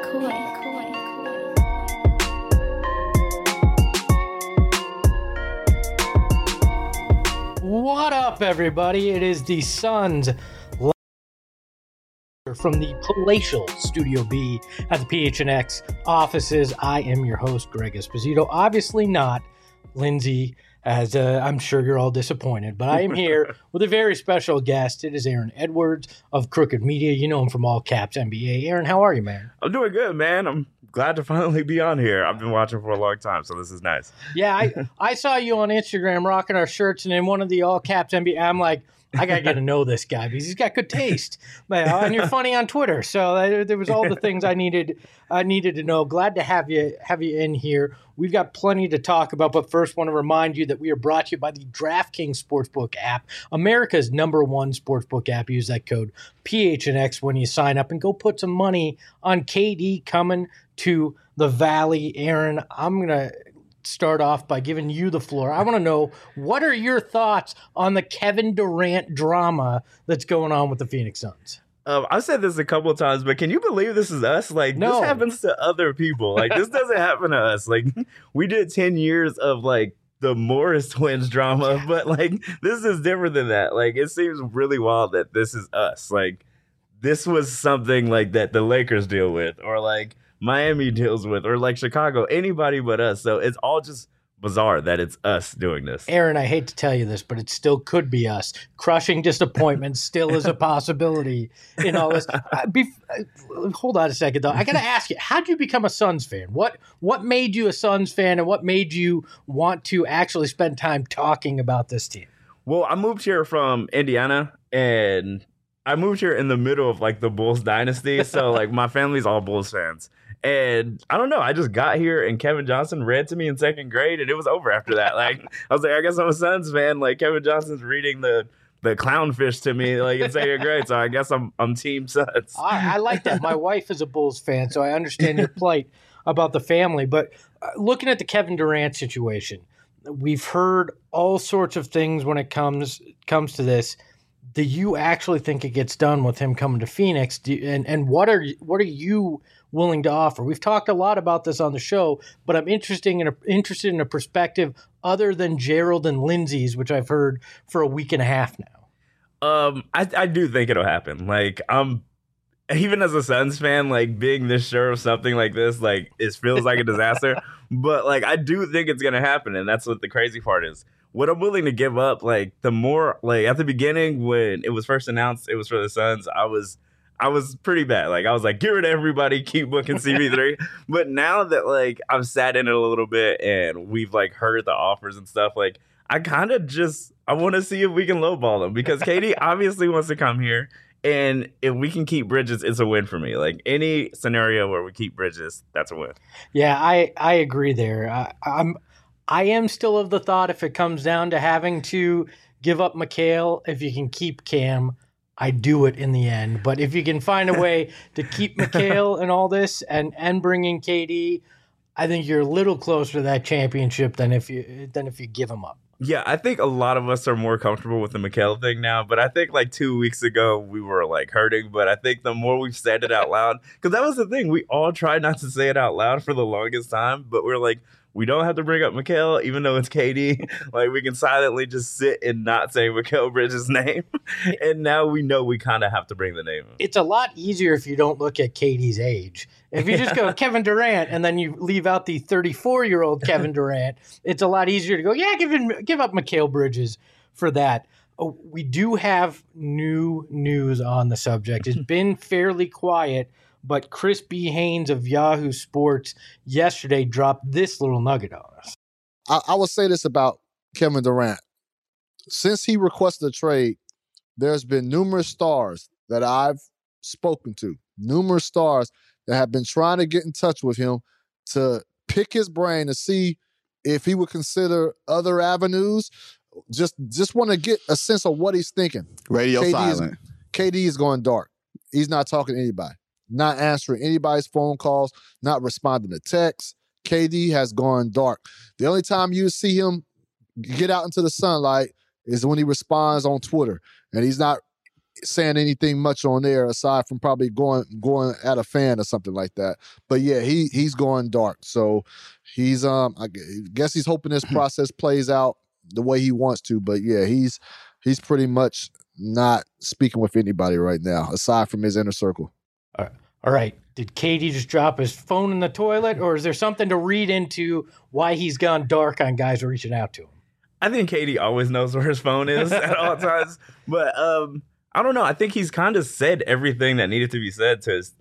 What up, everybody? It is the Suns from the palatial Studio B at the PHNX offices. I am your host, Greg Esposito. Obviously not Lindsay, as I'm sure you're all disappointed, but I am here with a very special guest. It is Aaron Edwards of Crooked Media. You know him from All Caps NBA. Aaron, how are you, man? I'm doing good, man. I'm glad to finally be on here. I've been watching for a long time, so this is nice. Yeah, I saw you on Instagram rocking our shirts, and in one of the All Caps NBA, I'm like, I got to get to know this guy because he's got good taste. And you're funny on Twitter. So there was all the things I needed to know. Glad to have you in here. We've got plenty to talk about, but first want to remind you that we are brought to you by the DraftKings Sportsbook app, America's #1 sportsbook app. Use that code PHNX when you sign up and go put some money on KD coming to the Valley. Aaron, I'm going to start off by giving you the floor. I want to know, what are your thoughts on the Kevin Durant drama that's going on with the Phoenix Suns? I've said this a couple of times, but can you believe this is us? Like, No. This happens to other people. Like, this doesn't happen to us. Like, we did 10 years of, like, the Morris twins drama, but, like, this is different than that. Like, it seems really wild that this is us. Like, this was something, like, that the Lakers deal with, or, like, Miami deals with, or like Chicago, anybody but us. So it's all just bizarre that it's us doing this. Aaron, I hate to tell you this, but it still could be us. Crushing disappointment still is a possibility in all this. Hold on a second, though. I got to ask you, how did you become a Suns fan? What made you a Suns fan, and what made you want to actually spend time talking about this team? Well, I moved here from Indiana, and I moved here in the middle of like the Bulls dynasty. So like my family's all Bulls fans. And I don't know, I just got here and Kevin Johnson read to me in second grade and it was over after that. Like I was like, I guess I'm a Suns fan. Like Kevin Johnson's reading the clownfish to me like in second grade. So I guess I'm Team Suns. I like that. My wife is a Bulls fan, so I understand your plight about the family. But looking at the Kevin Durant situation, we've heard all sorts of things when it comes to this. Do you actually think it gets done with him coming to Phoenix? And what are you willing to offer? We've talked a lot about this on the show, but I'm interested in a perspective other than Gerald and Lindsay's, which I've heard for a week and a half now. I do think it'll happen. Like even as a Suns fan, like being this sure of something like this, like it feels like a disaster. But like I do think it's gonna happen, and that's what the crazy part is. What I'm willing to give up, like the more, like at the beginning when it was first announced it was for the Suns, I was pretty bad. Like I was like, get rid of everybody, keep booking CP3. But now that like I've sat in it a little bit and we've like heard the offers and stuff, like I kind of I want to see if we can lowball them because KD obviously wants to come here. And if we can keep Bridges, it's a win for me. Like any scenario where we keep Bridges, that's a win. Yeah, I agree there. I am still of the thought if it comes down to having to give up Mikal, if you can keep Cam, I do it in the end. But if you can find a way to keep Mikal and all this and bring in KD, I think you're a little closer to that championship than if you give him up. Yeah, I think a lot of us are more comfortable with the Mikal thing now, but I think like 2 weeks ago we were like hurting, but I think the more we've said it out loud, because that was the thing, we all tried not to say it out loud for the longest time, but we're like, we don't have to bring up Mikal, even though it's KD. Like, we can silently just sit and not say Mikal Bridges' name. And now we know we kind of have to bring the name up. It's a lot easier if you don't look at KD's age. If you just go Kevin Durant and then you leave out the 34-year-old Kevin Durant, it's a lot easier to go, yeah, give up Mikal Bridges for that. Oh, we do have new news on the subject. It's been fairly quiet, but Chris B. Haynes of Yahoo Sports yesterday dropped this little nugget on us. I will say this about Kevin Durant. Since he requested a trade, there's been numerous stars that I've spoken to, numerous stars that have been trying to get in touch with him to pick his brain to see if he would consider other avenues. Just want to get a sense of what he's thinking. Radio silent. KD is going dark. He's not talking to anybody. Not answering anybody's phone calls, not responding to texts. KD has gone dark. The only time you see him get out into the sunlight is when he responds on Twitter. And he's not saying anything much on there aside from probably going at a fan or something like that. But yeah, he's going dark. So he's I guess he's hoping this process plays out the way he wants to. But yeah, he's pretty much not speaking with anybody right now aside from his inner circle. All right. Did KD just drop his phone in the toilet, or is there something to read into why he's gone dark on guys reaching out to him? I think KD always knows where his phone is at all times. But I don't know. I think he's kind of said everything that needed to be said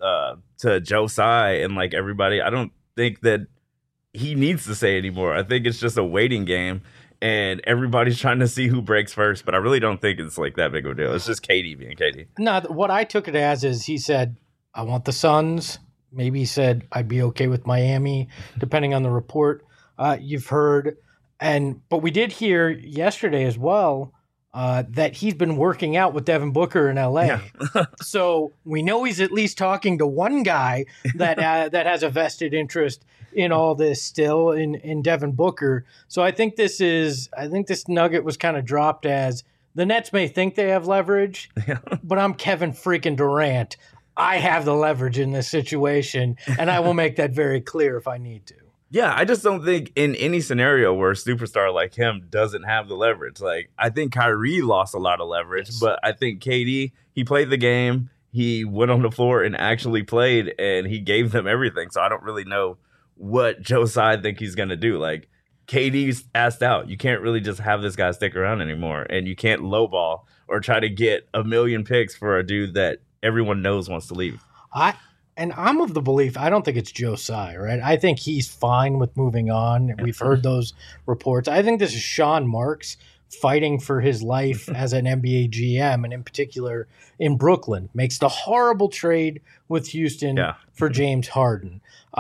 to Joe Tsai and like everybody. I don't think that he needs to say anymore. I think it's just a waiting game, and everybody's trying to see who breaks first. But I really don't think it's like that big of a deal. It's just KD being KD. No, what I took it as is he said, I want the Suns. Maybe he said I'd be okay with Miami, depending on the report you've heard. But we did hear yesterday as well that he's been working out with Devin Booker in LA. Yeah. So we know he's at least talking to one guy that has a vested interest in all this still in Devin Booker. So I think this nugget was kind of dropped as the Nets may think they have leverage, but I'm Kevin freaking Durant. I have the leverage in this situation, and I will make that very clear if I need to. Yeah, I just don't think in any scenario where a superstar like him doesn't have the leverage. Like, I think Kyrie lost a lot of leverage, but I think KD, he played the game, he went on the floor and actually played, and he gave them everything. So I don't really know what Joe Tsai think he's going to do. Like, KD's asked out. You can't really just have this guy stick around anymore, and you can't lowball or try to get a million picks for a dude that everyone knows wants to leave. I'm of the belief, I don't think it's Joe Tsai, right? I think he's fine with moving on. We've heard those reports. I think this is Sean Marks fighting for his life as an NBA GM, and in particular in Brooklyn. Makes the horrible trade with Houston for James Harden.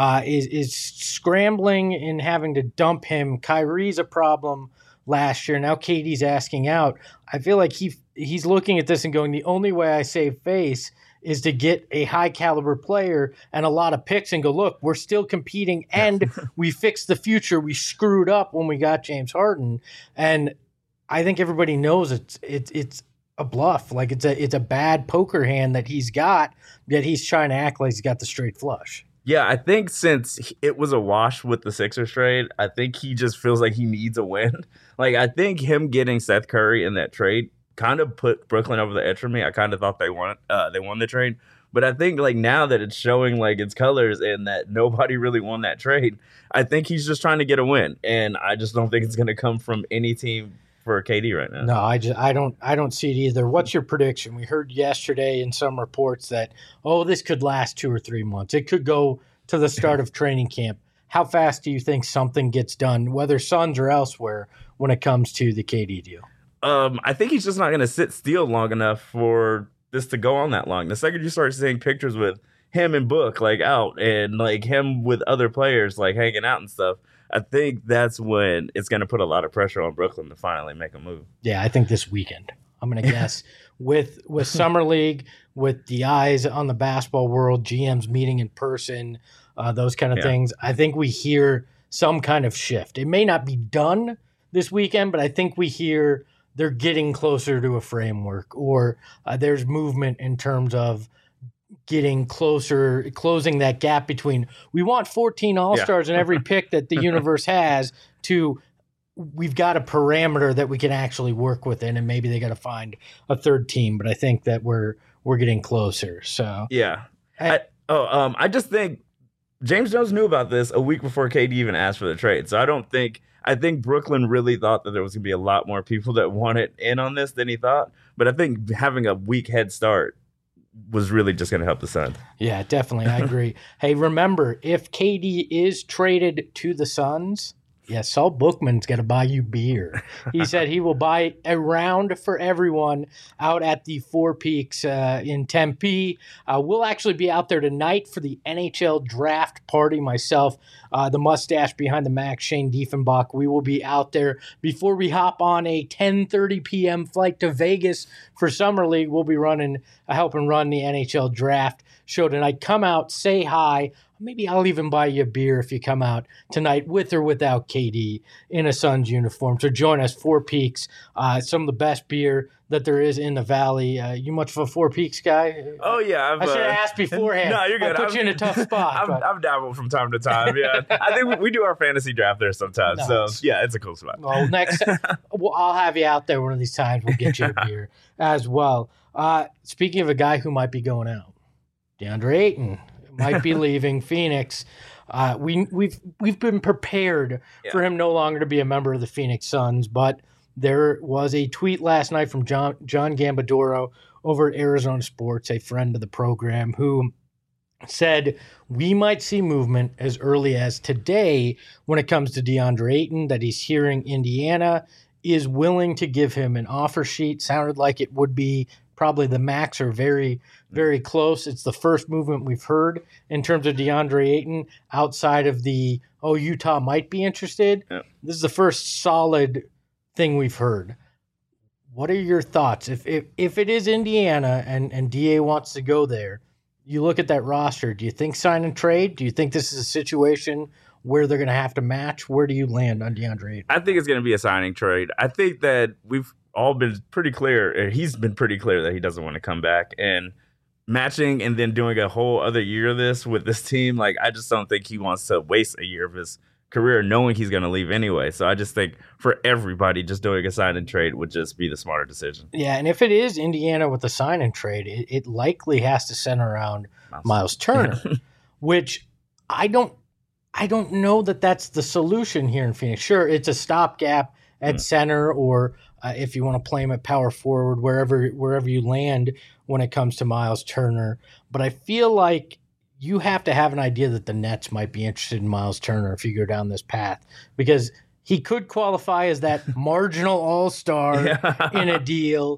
Is scrambling and having to dump him. Kyrie's a problem last year. Now KD's asking out. I feel like he's looking at this and going, the only way I save face is to get a high caliber player and a lot of picks and go, look, we're still competing and we fixed the future. We screwed up when we got James Harden. And I think everybody knows it's a bluff. Like it's a bad poker hand that he's got, yet he's trying to act like he's got the straight flush. Yeah, I think since it was a wash with the Sixers trade, I think he just feels like he needs a win. Like, I think him getting Seth Curry in that trade kind of put Brooklyn over the edge for me. I kind of thought they won the trade. But I think, like, now that it's showing, like, its colors and that nobody really won that trade, I think he's just trying to get a win. And I just don't think it's going to come from any team for KD right now. No, I don't see it either. What's your prediction? We heard yesterday in some reports that, this could last 2 or 3 months. It could go to the start of training camp. How fast do you think something gets done, whether Suns or elsewhere, when it comes to the KD deal? I think he's just not going to sit still long enough for this to go on that long. The second you start seeing pictures with him and Book, like, out, and, like, him with other players, like, hanging out and stuff, I think that's when it's going to put a lot of pressure on Brooklyn to finally make a move. Yeah, I think this weekend. I'm going to guess with Summer League, with the eyes on the basketball world, GMs meeting in person, those kind of things, I think we hear some kind of shift. It may not be done this weekend, but I think we hear they're getting closer to a framework, or there's movement in terms of getting closer, closing that gap between we want 14 All-Stars in every pick that the universe has to we've got a parameter that we can actually work within, and maybe they got to find a third team. But I think that we're getting closer. So I just think James Jones knew about this a week before KD even asked for the trade. So I think Brooklyn really thought that there was going to be a lot more people that wanted in on this than he thought. But I think having a weak head start was really just going to help the Suns. Yeah, definitely. I agree. Hey, remember, if KD is traded to the Suns, Saul Bookman's got to buy you beer. He said he will buy a round for everyone out at the Four Peaks in Tempe. We'll actually be out there tonight for the NHL draft party. Myself, the mustache behind the Mac, Shane Diefenbach. We will be out there before we hop on a 10:30 p.m. flight to Vegas for Summer League. We'll be running helping run the NHL draft show tonight. Come out, say hi. Maybe I'll even buy you a beer if you come out tonight with or without KD in a Suns uniform. So join us, Four Peaks, some of the best beer that there is in the Valley. You much of a Four Peaks guy? Oh, yeah. I should have asked beforehand. No, you're good. I put you in a tough spot. I've dabbled from time to time, yeah. I think we do our fantasy draft there sometimes. No, so, yeah, it's a cool spot. Well, I'll have you out there one of these times. We'll get you a beer as well. Speaking of a guy who might be going out, DeAndre Ayton might be leaving Phoenix. We've been prepared for him no longer to be a member of the Phoenix Suns, but there was a tweet last night from John Gambadoro over at Arizona Sports, a friend of the program, who said we might see movement as early as today when it comes to DeAndre Ayton, that he's hearing Indiana is willing to give him an offer sheet. Sounded like it would be probably the max or very, very close. It's the first movement we've heard in terms of DeAndre Ayton outside of the, Utah might be interested. Yeah. This is the first solid thing we've heard. What are your thoughts? If it is Indiana and DA wants to go there, you look at that roster, do you think sign and trade? Do you think this is a situation where they're going to have to match? Where do you land on DeAndre Ayton? I think it's going to be a signing trade. I think that we've all been pretty clear. He's been pretty clear that he doesn't want to come back, and matching and then doing a whole other year of this with this team. Like, I just don't think he wants to waste a year of his career knowing he's going to leave anyway. So I just think for everybody, just doing a sign and trade would just be the smarter decision. Yeah. And if it is Indiana with the sign and trade, it likely has to center around Miles Turner, which I don't know that that's the solution here in Phoenix. Sure, it's a stopgap at center, or if you want to play him at power forward, wherever you land when it comes to Miles Turner. But I feel like you have to have an idea that the Nets might be interested in Miles Turner if you go down this path, because he could qualify as that marginal all-star in a deal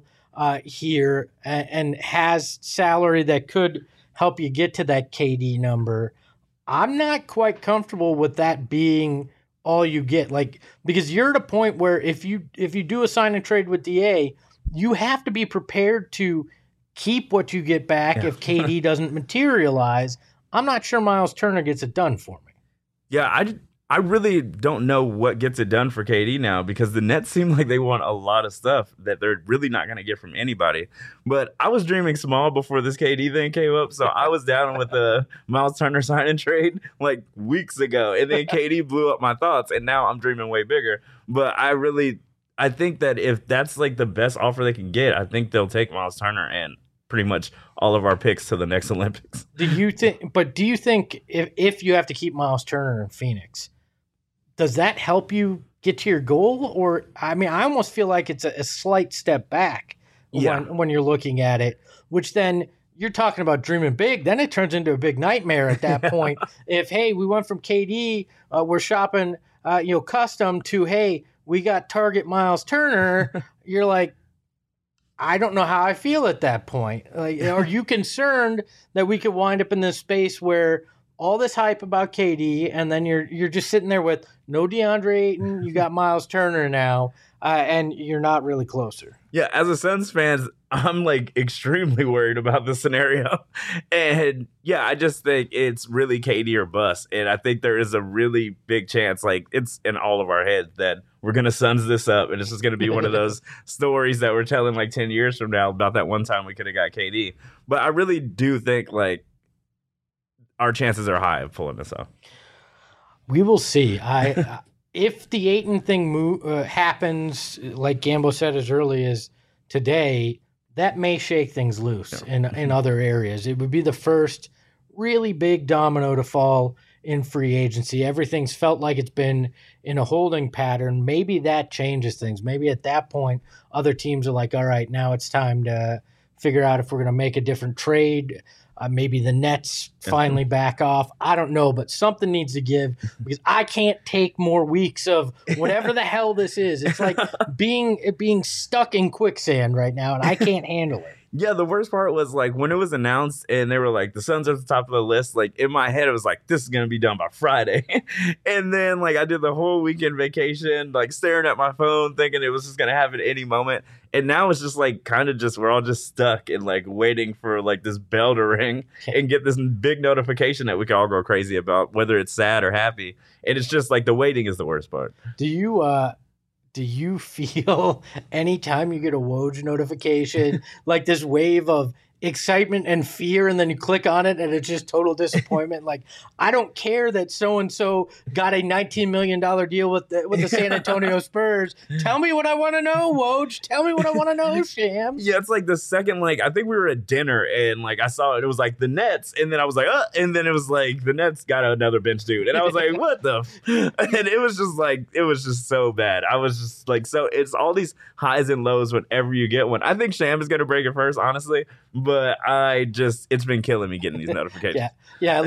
here and has salary that could help you get to that KD number. I'm not quite comfortable with that being all you get, because you're at a point where if you do a sign and trade with DA, you have to be prepared to keep what you get back if KD doesn't materialize. I'm not sure Miles Turner gets it done for me. Yeah, I really don't know what gets it done for KD now, because the Nets seem like they want a lot of stuff that they're really not going to get from anybody. But I was dreaming small before this KD thing came up, so I was down with the Miles Turner sign and trade like weeks ago, and then KD blew up my thoughts, and now I'm dreaming way bigger. But I think that if that's like the best offer they can get, I think they'll take Miles Turner and pretty much all of our picks to the next Olympics. Do you think if you have to keep Miles Turner in Phoenix, does that help you get to your goal? Or, I mean, I almost feel like it's a slight step back when you're looking at it, which then you're talking about dreaming big. Then it turns into a big nightmare at that point. If, hey, we went from KD, we're shopping, custom to, hey, we got target Miles Turner, you're like, I don't know how I feel at that point. Like, are you concerned that we could wind up in this space where all this hype about KD, and then you're just sitting there with no DeAndre Ayton, you got Miles Turner now, and you're not really closer? Yeah, as a Suns fan, I'm like extremely worried about this scenario. And yeah, I just think it's really KD or bust. And I think there is a really big chance, like it's in all of our heads, that we're going to Suns this up. And it's just going to be one of those stories that we're telling like 10 years from now about that one time we could have got KD. But I really do think like our chances are high of pulling this off. We will see. If the Ayton thing happens, like Gambo said as early as today, that may shake things loose in other areas. It would be the first really big domino to fall in free agency. Everything's felt like it's been in a holding pattern. Maybe that changes things. Maybe at that point, other teams are like, all right, now it's time to figure out if we're going to make a different trade. Maybe the Nets finally back off. I don't know, but something needs to give, because I can't take more weeks of whatever the hell this is. It's like being stuck in quicksand right now, and I can't handle it. Yeah, the worst part was like when it was announced and they were like the Suns are at the top of the list. Like in my head, it was like this is gonna be done by Friday, and then like I did the whole weekend vacation, like staring at my phone, thinking it was just gonna happen any moment. And now it's just like kind of just we're all just stuck and like waiting for like this bell to ring and get this big notification that we can all go crazy about, whether it's sad or happy. And it's just like the waiting is the worst part. Do you feel anytime you get a Woj notification, like this wave of excitement and fear, and then you click on it and it's just total disappointment? Like, I don't care that so-and-so got a $19 million deal with the San Antonio Spurs. Tell me what I want to know, Woj. Tell me what I want to know, Shams. Yeah, it's like the second, like, I think we were at dinner and like I saw it was like the Nets, and then I was like, and then it was like the Nets got another bench dude. And I was like, what the? And it was just so bad. I was just like, so it's all these highs and lows whenever you get one. I think Sham is going to break it first, honestly. But it's been killing me getting these notifications. Yeah.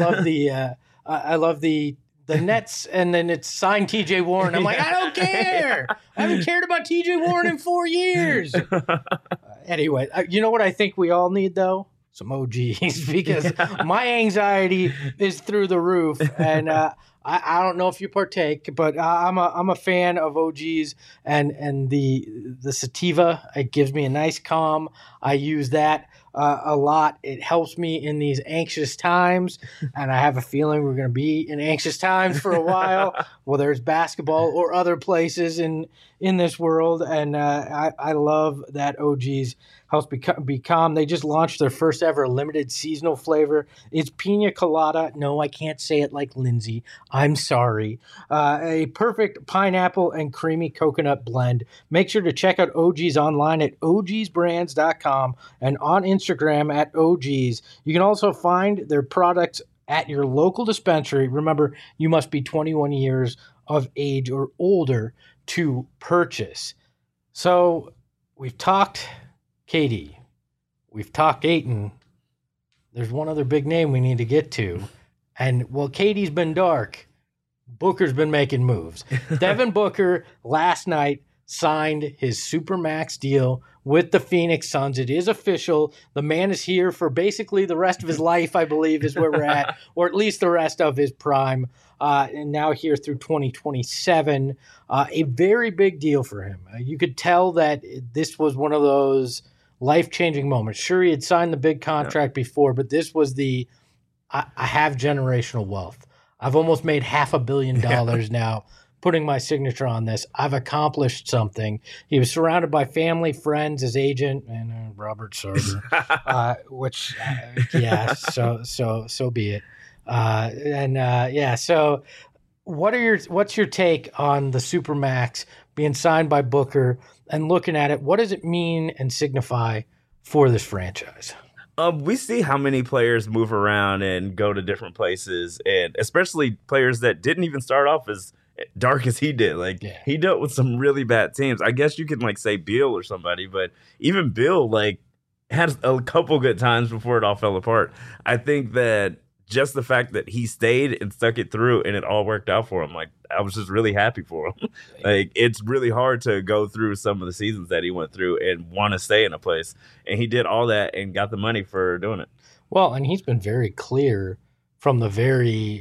I love the Nets, and then it's signed TJ Warren. I'm like, I don't care. I haven't cared about TJ Warren in 4 years. Anyway, you know what I think we all need though? Some OGs, because my anxiety is through the roof, and I don't know if you partake, but I'm a fan of OGs and the sativa. It gives me a nice calm. I use that a lot. It helps me in these anxious times, and I have a feeling we're going to be in anxious times for a while, whether it's basketball or other places in this world. And I love that OGs helps be calm. They just launched their first ever limited seasonal flavor. It's pina colada. No, I can't say it like Lindsay. I'm sorry. A perfect pineapple and creamy coconut blend. Make sure to check out OGs online at ogsbrands.com and on Instagram at OGs. You can also find their products at your local dispensary. Remember, you must be 21 years of age or older to purchase. So we've talked KD. We've talked Ayton. There's one other big name we need to get to. And while KD's been dark, Booker's been making moves. Devin Booker last night signed his Supermax deal with the Phoenix Suns. It is official. The man is here for basically the rest of his life, I believe, is where we're at, or at least the rest of his prime. And now here through 2027. A very big deal for him. You could tell that this was one of those life-changing moments. Sure, he had signed the big contract before, but this was I have generational wealth. I've almost made $500 million now putting my signature on this. I've accomplished something. He was surrounded by family, friends, his agent, and Robert Sarver, which, so be it. So what's your take on the Supermax being signed by Booker and looking at it? What does it mean and signify for this franchise? We see how many players move around and go to different places, and especially players that didn't even start off as dark as he did. Like, he dealt with some really bad teams. I guess you can like say Beal or somebody, but even Bill like had a couple good times before it all fell apart. I think that just the fact that he stayed and stuck it through and it all worked out for him, like, I was just really happy for him. Like, it's really hard to go through some of the seasons that he went through and want to stay in a place. And he did all that and got the money for doing it. Well, and he's been very clear from the very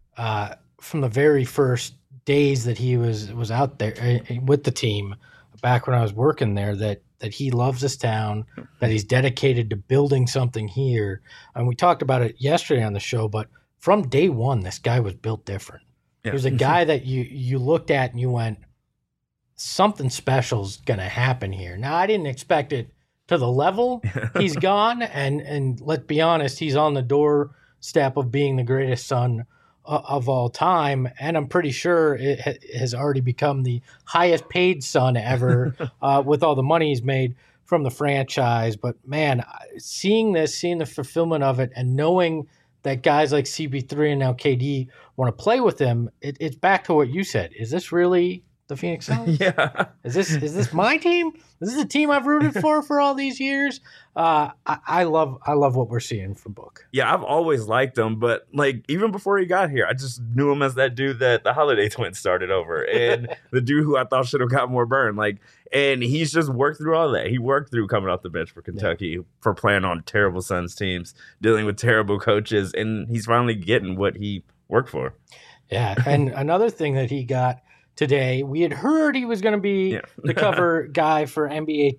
first days that he was out there with the team back when I was working there that he loves this town, that he's dedicated to building something here. And we talked about it yesterday on the show, but from day one, this guy was built different. Yeah. He was a guy that you looked at and you went, something special's going to happen here. Now, I didn't expect it to the level he's gone. And let's be honest, he's on the doorstep of being the greatest Sun of all time, and I'm pretty sure it has already become the highest paid Sun ever with all the money he's made from the franchise. But man, seeing the fulfillment of it, and knowing that guys like CP3 and now KD want to play with him, it's back to what you said. Is this really the Phoenix Suns? Yeah. Is this my team? Is this the team I've rooted for all these years? I love what we're seeing from Book. Yeah, I've always liked him, but like even before he got here, I just knew him as that dude that the Holiday Twins started over, and the dude who I thought should have got more burn. Like, and he's just worked through all that. He worked through coming off the bench for Kentucky, for playing on terrible Suns teams, dealing with terrible coaches, and he's finally getting what he worked for. Yeah, and another thing that he got today, we had heard he was going to be the cover guy for NBA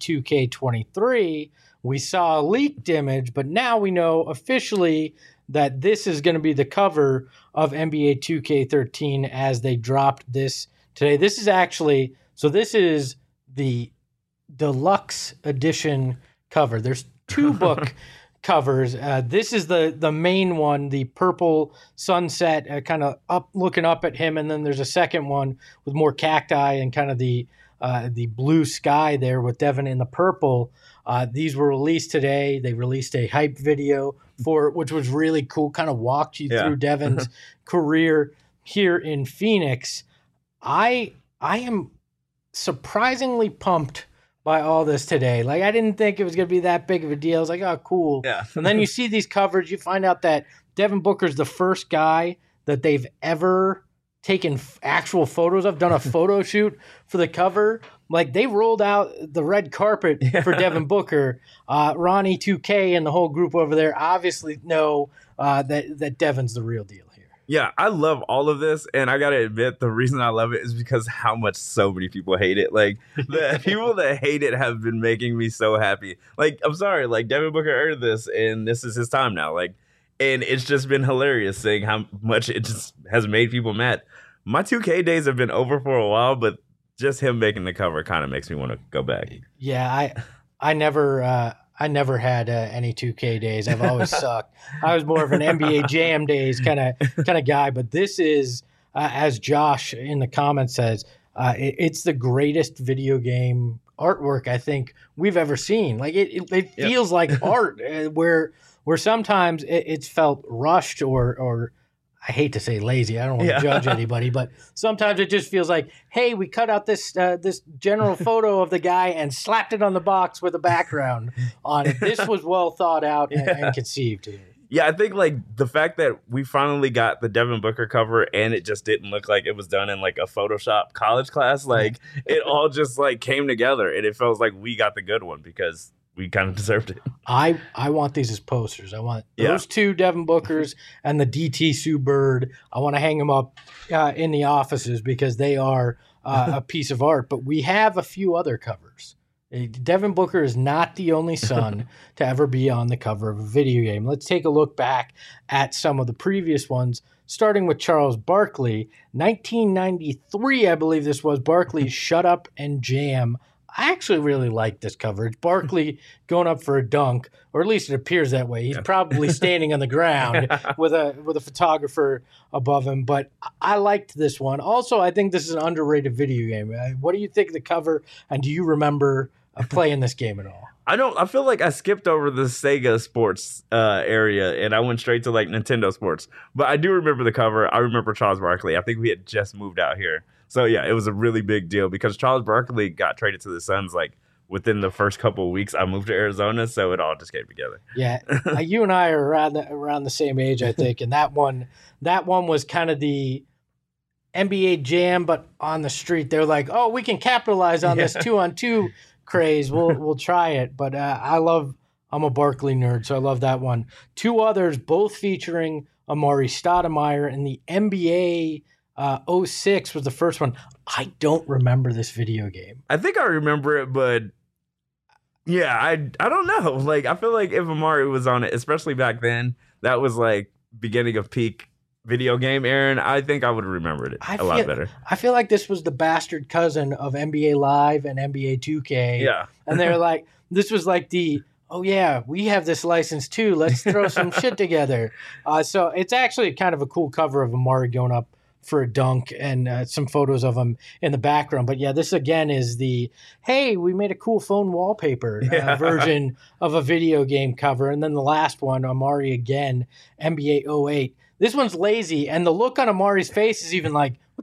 2K23. We saw a leaked image, but now we know officially that this is going to be the cover of NBA 2K13 as they dropped this today. This is actually, so this is the deluxe edition cover. There's two book covers. This is the main one, the purple sunset, kind of up looking up at him, and then there's a second one with more cacti and kind of the blue sky there with Devin in the purple. These were released today. They released a hype video for it, which was really cool. Kind of walked you through Devin's career here in Phoenix. I am surprisingly pumped by all this today. Like, I didn't think it was going to be that big of a deal. I was like, oh, cool. Yeah. And then you see these covers, you find out that Devin Booker's the first guy that they've ever taken actual photos of, done a photo shoot for the cover. Like, they rolled out the red carpet for Devin Booker. Ronnie 2K and the whole group over there obviously know that Devin's the real deal here. Yeah, I love all of this, and I gotta admit, the reason I love it is because how much so many people hate it. Like, the people that hate it have been making me so happy. Like, I'm sorry, like, Devin Booker earned this, and this is his time now. Like, and it's just been hilarious seeing how much it just has made people mad. My 2K days have been over for a while, but just him making the cover kind of makes me want to go back. Yeah, I never had any 2K days. I've always sucked. I was more of an NBA Jam days kind of guy. But this is, as Josh in the comments says, it's the greatest video game artwork I think we've ever seen. Like it feels like art, where sometimes it's felt rushed or I hate to say lazy. I don't want to judge anybody, but sometimes it just feels like, hey, we cut out this general photo of the guy and slapped it on the box with a background on it. This was well thought out and conceived. Yeah, I think like the fact that we finally got the Devin Booker cover and it just didn't look like it was done in like a Photoshop college class, like it all just like came together and it felt like we got the good one because we kind of deserved it. I want these as posters. I want those two Devin Bookers and the DT Sue Bird. I want to hang them up in the offices because they are a piece of art. But we have a few other covers. Devin Booker is not the only son to ever be on the cover of a video game. Let's take a look back at some of the previous ones, starting with Charles Barkley. 1993, I believe this was, Barkley's Shut Up and Jam. I actually really like this coverage. Barkley going up for a dunk, or at least it appears that way. He's probably standing on the ground with a photographer above him, but I liked this one. Also, I think this is an underrated video game. What do you think of the cover, and do you remember playing this game at all? I feel like I skipped over the Sega Sports area and I went straight to like Nintendo Sports. But I do remember the cover. I remember Charles Barkley. I think we had just moved out here. So yeah, it was a really big deal because Charles Barkley got traded to the Suns like within the first couple of weeks. I moved to Arizona, so it all just came together. Yeah, you and I are around the same age, I think, and that one was kind of the NBA Jam, but on the street. They're like, oh, we can capitalize on this 2-on-2 craze. We'll try it. But I'm a Barkley nerd, so I love that one. Two others, both featuring Amari Stoudemire in the NBA. 06 was the first one. I don't remember this video game. I think I remember it, but yeah, I don't know. Like, I feel like if Amari was on it, especially back then, that was like beginning of peak video game, Aaron. I think I would have remembered it a lot better. I feel like this was the bastard cousin of NBA Live and NBA 2K. Yeah. And they're like, this was like oh yeah, we have this license too. Let's throw some shit together. So it's actually kind of a cool cover of Amari going up for a dunk and some photos of him in the background. But yeah, this again is hey, we made a cool phone wallpaper version of a video game cover. And then the last one, Amari again, NBA 08. This one's lazy. And the look on Amari's face is even like, what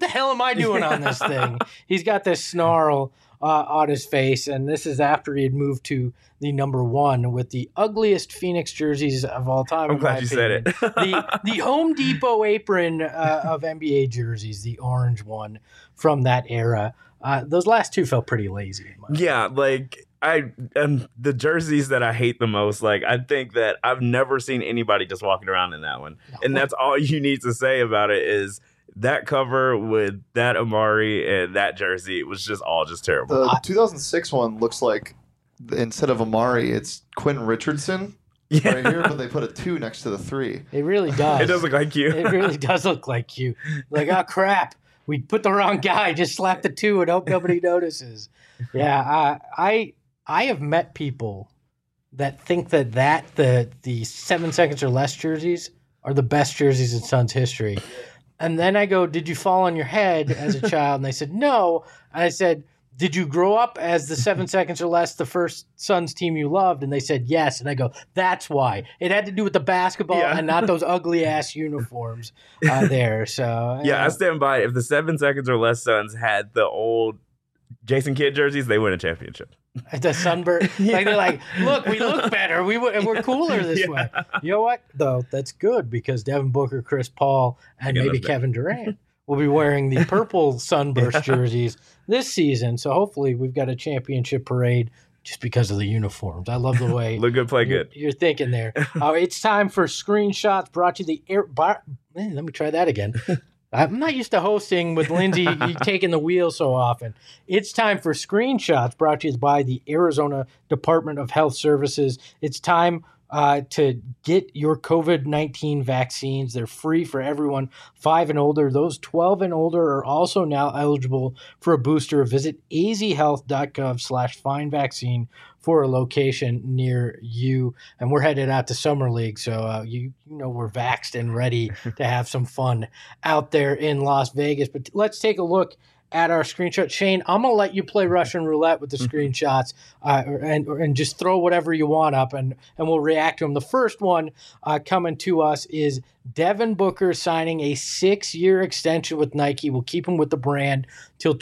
the hell am I doing on this thing? He's got this snarl on his face, and this is after he had moved to the number 1 with the ugliest Phoenix jerseys of all time. I'm glad you said it. the Home Depot apron of NBA jerseys, the orange one from that era. Those last two felt pretty lazy. Yeah, like the jerseys that I hate the most, like I think that I've never seen anybody just walking around in that one. No. And that's all you need to say about it is that cover with that Amari and that jersey, it was just all just terrible. The 2006 one looks like instead of Amari, it's Quentin Richardson right here, but they put a 2 next to the 3. It really does. It does look like you. It really does look like you. Like, oh crap, we put the wrong guy. Just slap the 2 and hope nobody notices. Yeah, I have met people that think that the 7 seconds or less jerseys are the best jerseys in Suns history. And then I go, did you fall on your head as a child? And they said, no. And I said, did you grow up as the 7 seconds or less the first Suns team you loved? And they said, yes. And I go, that's why. It had to do with the basketball and not those ugly-ass uniforms there. So yeah, I stand by it. If the 7 seconds or less Suns had the old Jason Kidd jerseys, they win a championship. The sunburn, like they're like, look, we look better. We're cooler this way. You know what? Though that's good because Devin Booker, Chris Paul, and maybe Kevin Durant will be wearing the purple sunburst jerseys this season. So hopefully we've got a championship parade just because of the uniforms. I love the way look good, play good. You're thinking there. It's time for screenshots brought to the air. Man, let me try that again. I'm not used to hosting with Lindsay taking the wheel so often. It's time for screenshots brought to you by the Arizona Department of Health Services. It's time to get your COVID-19 vaccines. They're free for everyone 5 and older. Those 12 and older are also now eligible for a booster. Visit azhealth.gov/findvaccine for a location near you. And we're headed out to Summer League, so you know we're vaxxed and ready to have some fun out there in Las Vegas. But let's take a look at our screenshot. Shane, I'm going to let you play Russian roulette with the screenshots and just throw whatever you want up, and we'll react to them. The first one coming to us is Devin Booker signing a 6-year extension with Nike. We'll keep him with the brand till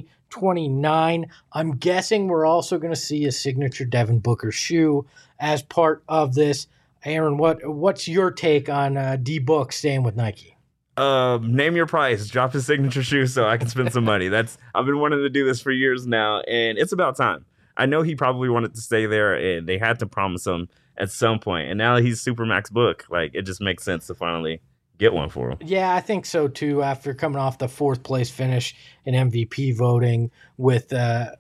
2029. I'm guessing we're also going to see a signature Devin Booker shoe as part of this. Aaron, what's your take on D-Book staying with Nike? Name your price, drop his signature shoe so I can spend some money. I've been wanting to do this for years now, and it's about time. I know he probably wanted to stay there, and they had to promise him at some point. And now he's Supermax Book. Like, it just makes sense to finally get one for him. Yeah, I think so too. After coming off the 4th place finish in MVP voting with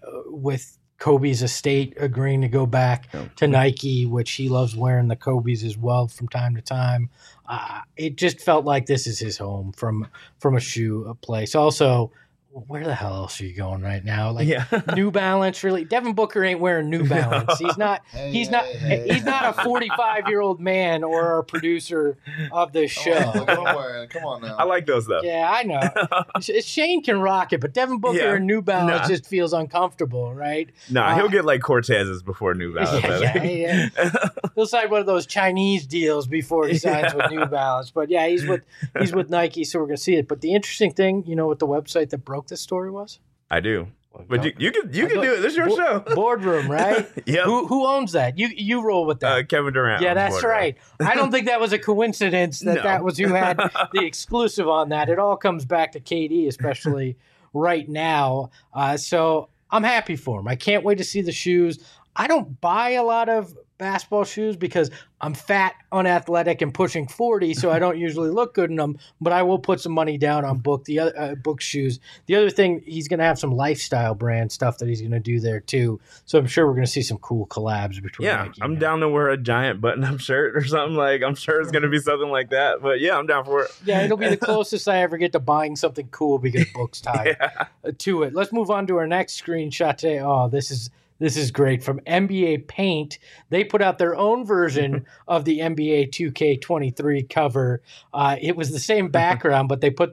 Kobe's estate agreeing to go back to Nike, which he loves wearing the Kobe's as well from time to time. It just felt like this is his home from a shoe place. Also, where the hell else are you going right now? Like New Balance, really? Devin Booker ain't wearing New Balance. He's not. He's not a 45-year-old man or our producer of this show. Come on now. I like those though. Yeah, I know. Shane can rock it, but Devin Booker in New Balance just feels uncomfortable, right? He'll get like Cortez's before New Balance. He'll sign one of those Chinese deals before he signs with New Balance. But yeah, he's with Nike, so we're gonna see it. But the interesting thing, you know, what the website that broke this story was? I do. But you can do it. This is your show. Boardroom, right? Yeah. Who owns that? You roll with that. Kevin Durant. Yeah, that's right. I don't think that was a coincidence that was who had the exclusive on that. It all comes back to KD, especially right now. So I'm happy for him. I can't wait to see the shoes. I don't buy a lot of basketball shoes because I'm fat, unathletic, and pushing 40, so I don't usually look good in them, but I will put some money down on Book shoes. The other thing, he's going to have some lifestyle brand stuff that he's going to do there too, so I'm sure we're going to see some cool collabs between Nike I'm down to wear a giant button-up shirt or something. Like, I'm sure it's going to be something like that, but yeah, I'm down for it. Yeah, it'll be the closest I ever get to buying something cool because Book's tied to it. Let's move on to our next screenshot today. Oh, this is great. From NBA Paint, they put out their own version of the NBA 2K23 cover. It was the same background, but they put their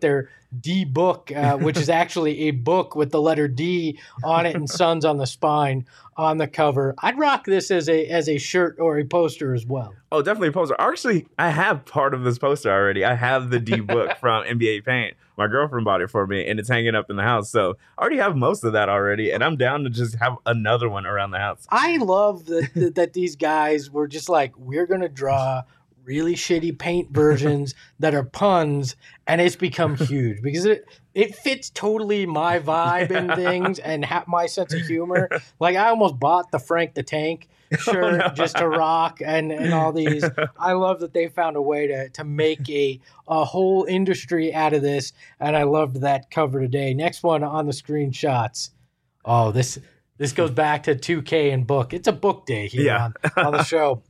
D Book, which is actually a book with the letter D on it and Suns on the spine on the cover. I'd rock this as a shirt or a poster as well. Oh, definitely a poster. Actually, I have part of this poster already. I have the D Book from NBA Paint. My girlfriend bought it for me, and it's hanging up in the house. So I already have most of that already, and I'm down to just have another one around the house. I love that these guys were just like, we're going to draw really shitty paint versions that are puns, and it's become huge because it fits totally my vibe and things and my sense of humor. Like, I almost bought the Frank the Tank shirt just to rock and all these. I love that they found a way to make a whole industry out of this, and I loved that cover today. Next one on the screenshots. Oh, this goes back to 2K and Book. It's a book day here on the show.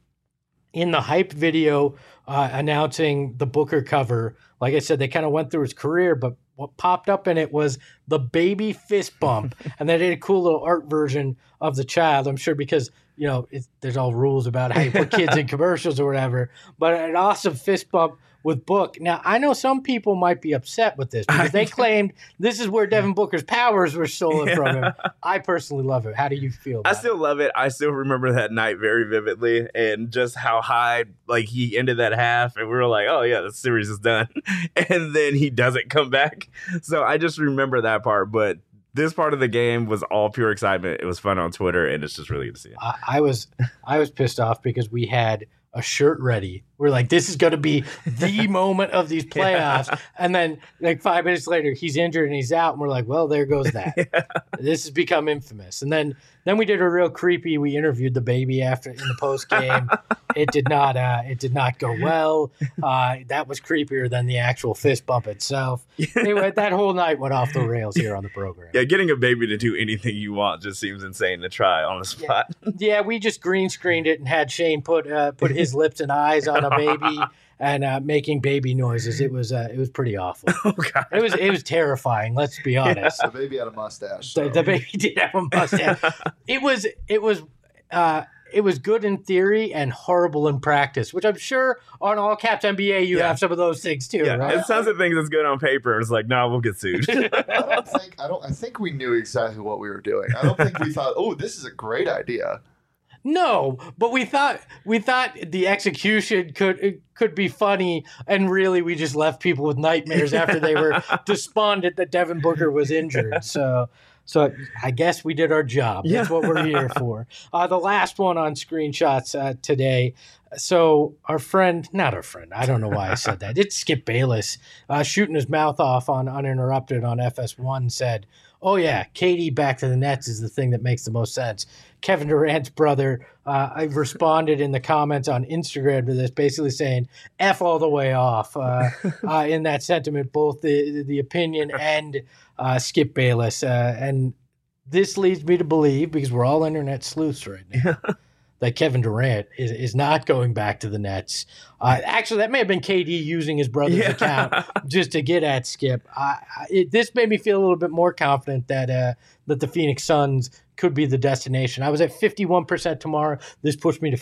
In the hype video announcing the Booker cover, like I said, they kind of went through his career, but what popped up in it was the baby fist bump. And they did a cool little art version of the child, I'm sure, because, there's all rules about how you put kids in commercials or whatever. But an awesome fist bump with Book. Now, I know some people might be upset with this because they claimed this is where Devin Booker's powers were stolen from him. I personally love it. How do you feel about it? I still love it. I still remember that night very vividly and just how high, he ended that half and we were like, oh yeah, the series is done. And then he doesn't come back. So I just remember that part. But this part of the game was all pure excitement. It was fun on Twitter, and it's just really good to see it. I was pissed off because we had a shirt ready. We're like, this is going to be the moment of these playoffs. Yeah. And then 5 minutes later, he's injured and he's out. And we're like, well, there goes that. Yeah. This has become infamous. And then we did a real creepy. We interviewed the baby in the post game. It did not go well. That was creepier than the actual fist bump itself. Anyway, that whole night went off the rails here on the program. Yeah, getting a baby to do anything you want just seems insane to try on the spot. Yeah, we just green screened it and had Shane put his lips and eyes on a baby and making baby noises. It was pretty awful. Oh, God. It was terrifying. Let's be honest. The baby had a mustache. So. The baby did have a mustache. It was good in theory and horrible in practice, which I'm sure on All Caps NBA you have some of those things too, right? It sounds like things that's good on paper. It's like, no, we'll get sued. I think we knew exactly what we were doing. I don't think we thought, oh, this is a great idea. No, but we thought the execution could be funny, and really we just left people with nightmares after they were despondent that Devin Booker was injured. So I guess we did our job. That's what we're here for. The last one on screenshots today. So not our friend. I don't know why I said that. It's Skip Bayless shooting his mouth off on Uninterrupted on FS1 said, oh yeah, KD back to the Nets is the thing that makes the most sense. Kevin Durant's brother, I responded in the comments on Instagram to this, basically saying F all the way off in that sentiment, both the opinion and Skip Bayless. And this leads me to believe, because we're all internet sleuths right now, that Kevin Durant is not going back to the Nets. Actually, that may have been KD using his brother's account just to get at Skip. This made me feel a little bit more confident that the Phoenix Suns could be the destination. I was at 51% tomorrow. This pushed me to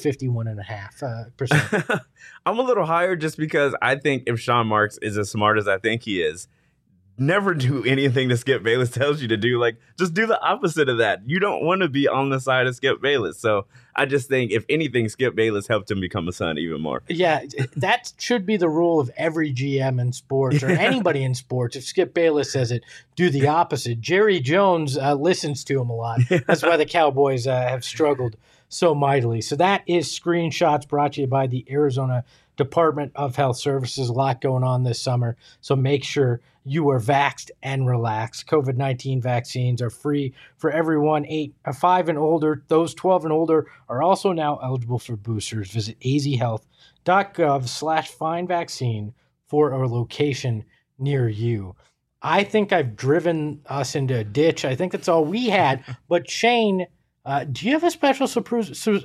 51.5%. I'm a little higher just because I think if Sean Marks is as smart as I think he is, never do anything that Skip Bayless tells you to do. Just do the opposite of that. You don't want to be on the side of Skip Bayless. So I just think, if anything, Skip Bayless helped him become a Sun even more. Yeah, that should be the rule of every GM in sports or anybody in sports. If Skip Bayless says it, do the opposite. Jerry Jones listens to him a lot. That's why the Cowboys have struggled so mightily. So that is Screenshots, brought to you by the Arizona Department of Health Services. A lot going on this summer. So make sure you are vaxxed and relaxed. COVID-19 vaccines are free for everyone 5 and older. Those 12 and older are also now eligible for boosters. Visit azhealth.gov/findvaccine for a location near you. I think I've driven us into a ditch. I think that's all we had. But Shane, do you have a special special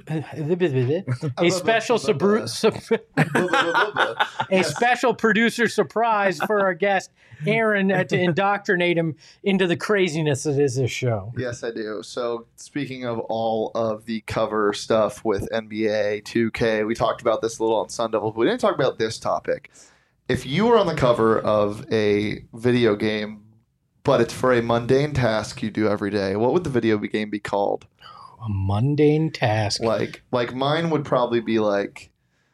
producer surprise for our guest Aaron to indoctrinate him into the craziness that is this show? Yes, I do. So speaking of all of the cover stuff with NBA 2K, we talked about this a little on Sun Devil, but we didn't talk about this topic. if you were on the cover of a video game, but it's for a mundane task you do every day, what would the video game be called? A mundane task. Like mine would probably be like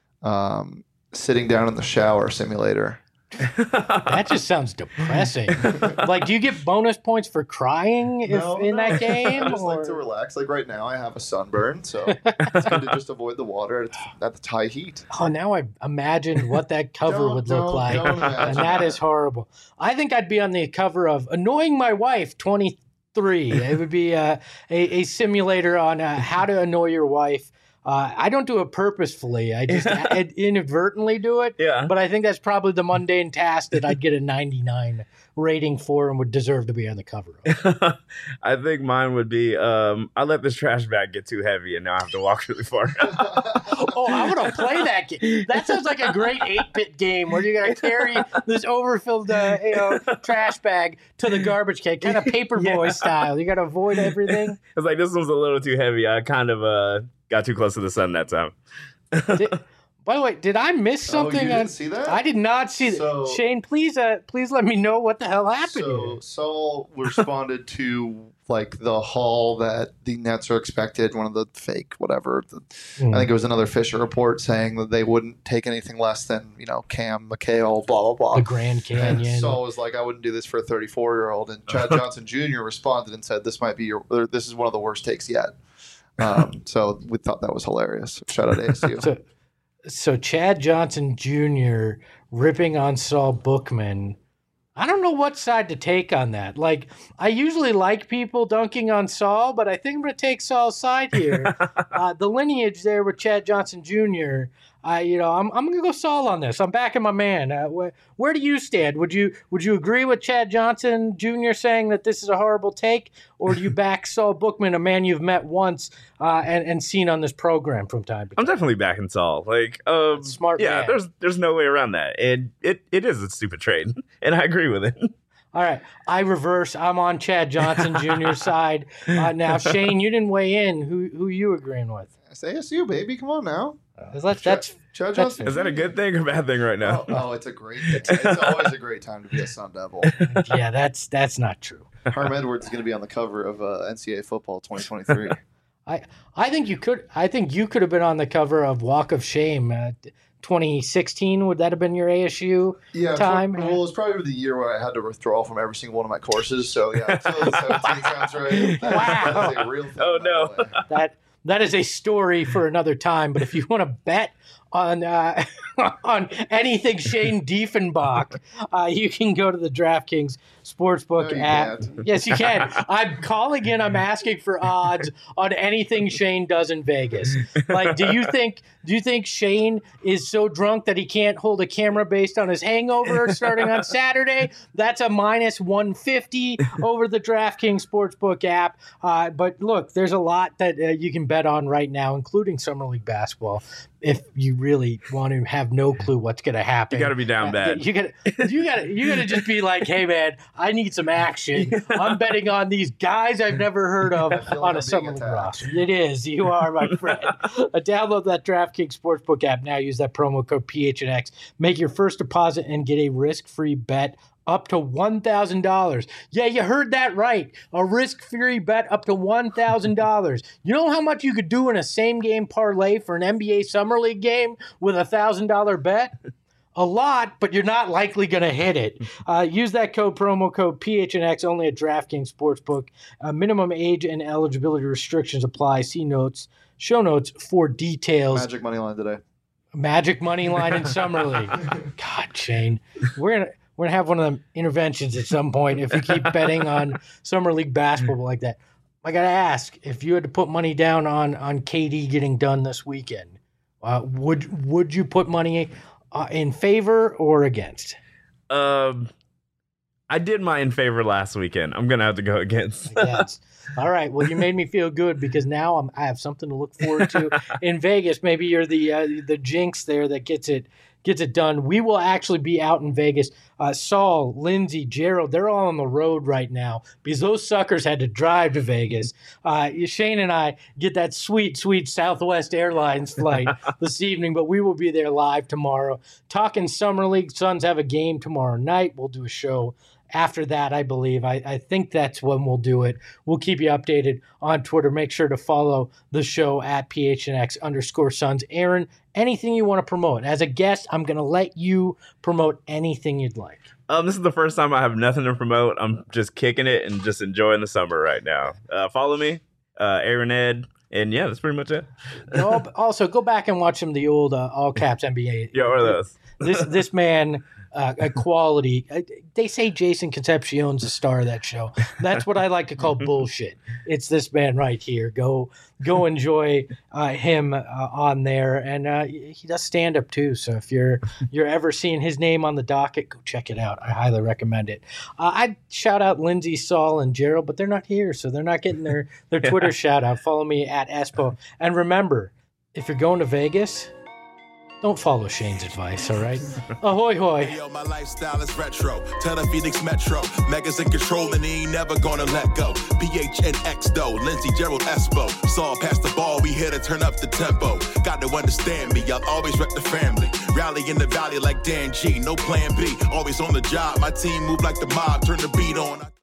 sitting down in the shower simulator. That just sounds depressing. Like, do you get bonus points for crying that game? I just like to relax. Like right now, I have a sunburn, so it's good to just avoid the water at the high heat. Oh, now I imagined what that cover would look like, and that is horrible. I think I'd be on the cover of Annoying My Wife 23. It would be a simulator on how to annoy your wife. I don't do it purposefully. I just inadvertently do it. Yeah. But I think that's probably the mundane task that I'd get a 99 rating for and would deserve to be on the cover of. I think mine would be I let this trash bag get too heavy and now I have to walk really far. Oh, I want to play that game. That sounds like a great 8-bit game where you got to carry this overfilled trash bag to the garbage can, kind of Paperboy style. You got to avoid everything. It's like, this one's a little too heavy. I kind of got too close to the sun that time. By the way, did I miss something? You didn't see that? I did not see that. Shane, please let me know what the hell happened here. Saul responded to like the haul that the Nets are expected, one of the fake whatever. I think it was another Fisher report saying that they wouldn't take anything less than, Cam, McHale, blah, blah, blah. The Grand Canyon. And Saul was like, I wouldn't do this for a 34-year-old. And Chad Johnson Jr. responded and said, this is one of the worst takes yet. So we thought that was hilarious. Shout out to ASU. So Chad Johnson Jr. ripping on Saul Bookman. I don't know what side to take on that. Like, I usually like people dunking on Saul, but I think I'm going to take Saul's side here. The lineage there with Chad Johnson Jr., I'm going to go Saul on this. I'm backing my man. Where do you stand? Would you agree with Chad Johnson Jr. saying that this is a horrible take, or do you back Saul Bookman, a man you've met once and seen on this program from time to time? I'm definitely backing Saul. Like, smart man. There's no way around that. And it is a stupid trade, and I agree with it. All right, I reverse. I'm on Chad Johnson Jr.'s side. Now, Shane, you didn't weigh in. Who you agreeing with? It's ASU, baby. Come on now. Chad Johnson. Is that a good thing or bad thing right now? Oh, it's always a great time to be a Sun Devil. Yeah, that's not true. Herm Edwards is going to be on the cover of NCAA Football 2023. I think you could have been on the cover of Walk of Shame 2016. Would that have been your ASU time? Well, it was probably the year where I had to withdraw from every single one of my courses. So yeah, 2017 sounds right. Wow. That's a real thing. Oh no. That is a story for another time. But if you want to bet on anything Shane Diefenbach, you can go to the DraftKings Sportsbook app. Can't. Yes, you can. I'm calling in. I'm asking for odds on anything Shane does in Vegas. Like, do you think Shane is so drunk that he can't hold a camera based on his hangover starting on Saturday? That's a minus 150 over the DraftKings Sportsbook app. But look, there's a lot that you can bet on right now, including Summer League basketball. If you really want to have no clue what's going to happen, you got to be down bad. You got to just be like, hey man, I need some action. I'm betting on these guys I've never heard of on a Summer League roster. It is. You are, my friend. Download that DraftKings Sportsbook app now. Use that promo code PHNX. Make your first deposit and get a risk-free bet up to $1,000. Yeah, you heard that right. A risk-free bet up to $1,000. You know how much you could do in a same-game parlay for an NBA Summer League game with a $1,000 bet? A lot, but you're not likely going to hit it. Use that promo code PHNX only at DraftKings Sportsbook. Minimum age and eligibility restrictions apply. See show notes for details. Magic money line today. Magic money line in Summer League. God, Shane. We're going to have one of them interventions at some point if you keep betting on Summer League basketball like that. I got to ask, if you had to put money down on KD getting done this weekend, would you put money in favor or against? I did my in favor last weekend. I'm going to have to go against. Yes. All right. Well, you made me feel good because now I have something to look forward to in Vegas. Maybe you're the jinx there that gets it gets it done. We will actually be out in Vegas. Saul, Lindsay, Gerald, they're all on the road right now because those suckers had to drive to Vegas. Shane and I get that sweet, sweet Southwest Airlines flight this evening, but we will be there live tomorrow. Talking Summer League. Suns have a game tomorrow night. We'll do a show after that, I believe. I think that's when we'll do it. We'll keep you updated on Twitter. Make sure to follow the show at PHNX_Suns. Aaron, anything you want to promote? As a guest, I'm going to let you promote anything you'd like. This is the first time I have nothing to promote. I'm just kicking it and just enjoying the summer right now. Follow me, Aaron Ed. And yeah, that's pretty much it. Also, go back and watch some of the old All Caps NBA. Yeah, what are those? This man, a quality. They say Jason Concepcion's the star of that show. That's what I like to call bullshit. It's this man right here. Go enjoy him on there, and he does stand up too. So if you're ever seeing his name on the docket, go check it out. I highly recommend it. I'd shout out Lindsay, Saul, and Gerald, but they're not here, so they're not getting their Twitter shout out. Follow me at Espo, and remember, if you're going to Vegas, don't follow Shane's advice, all right? Ahoy, hoy. Yo, my lifestyle is retro. Tell the Phoenix Metro. Megas in control and he ain't never gonna let go. PHNX though, Lindsey, Gerald, Espo. Saw pass the ball, we here to turn up the tempo. Got to understand me, I'll always wreck the family. Rally in the valley like Dan G, no plan B. Always on the job, my team move like the mob, turn the beat on.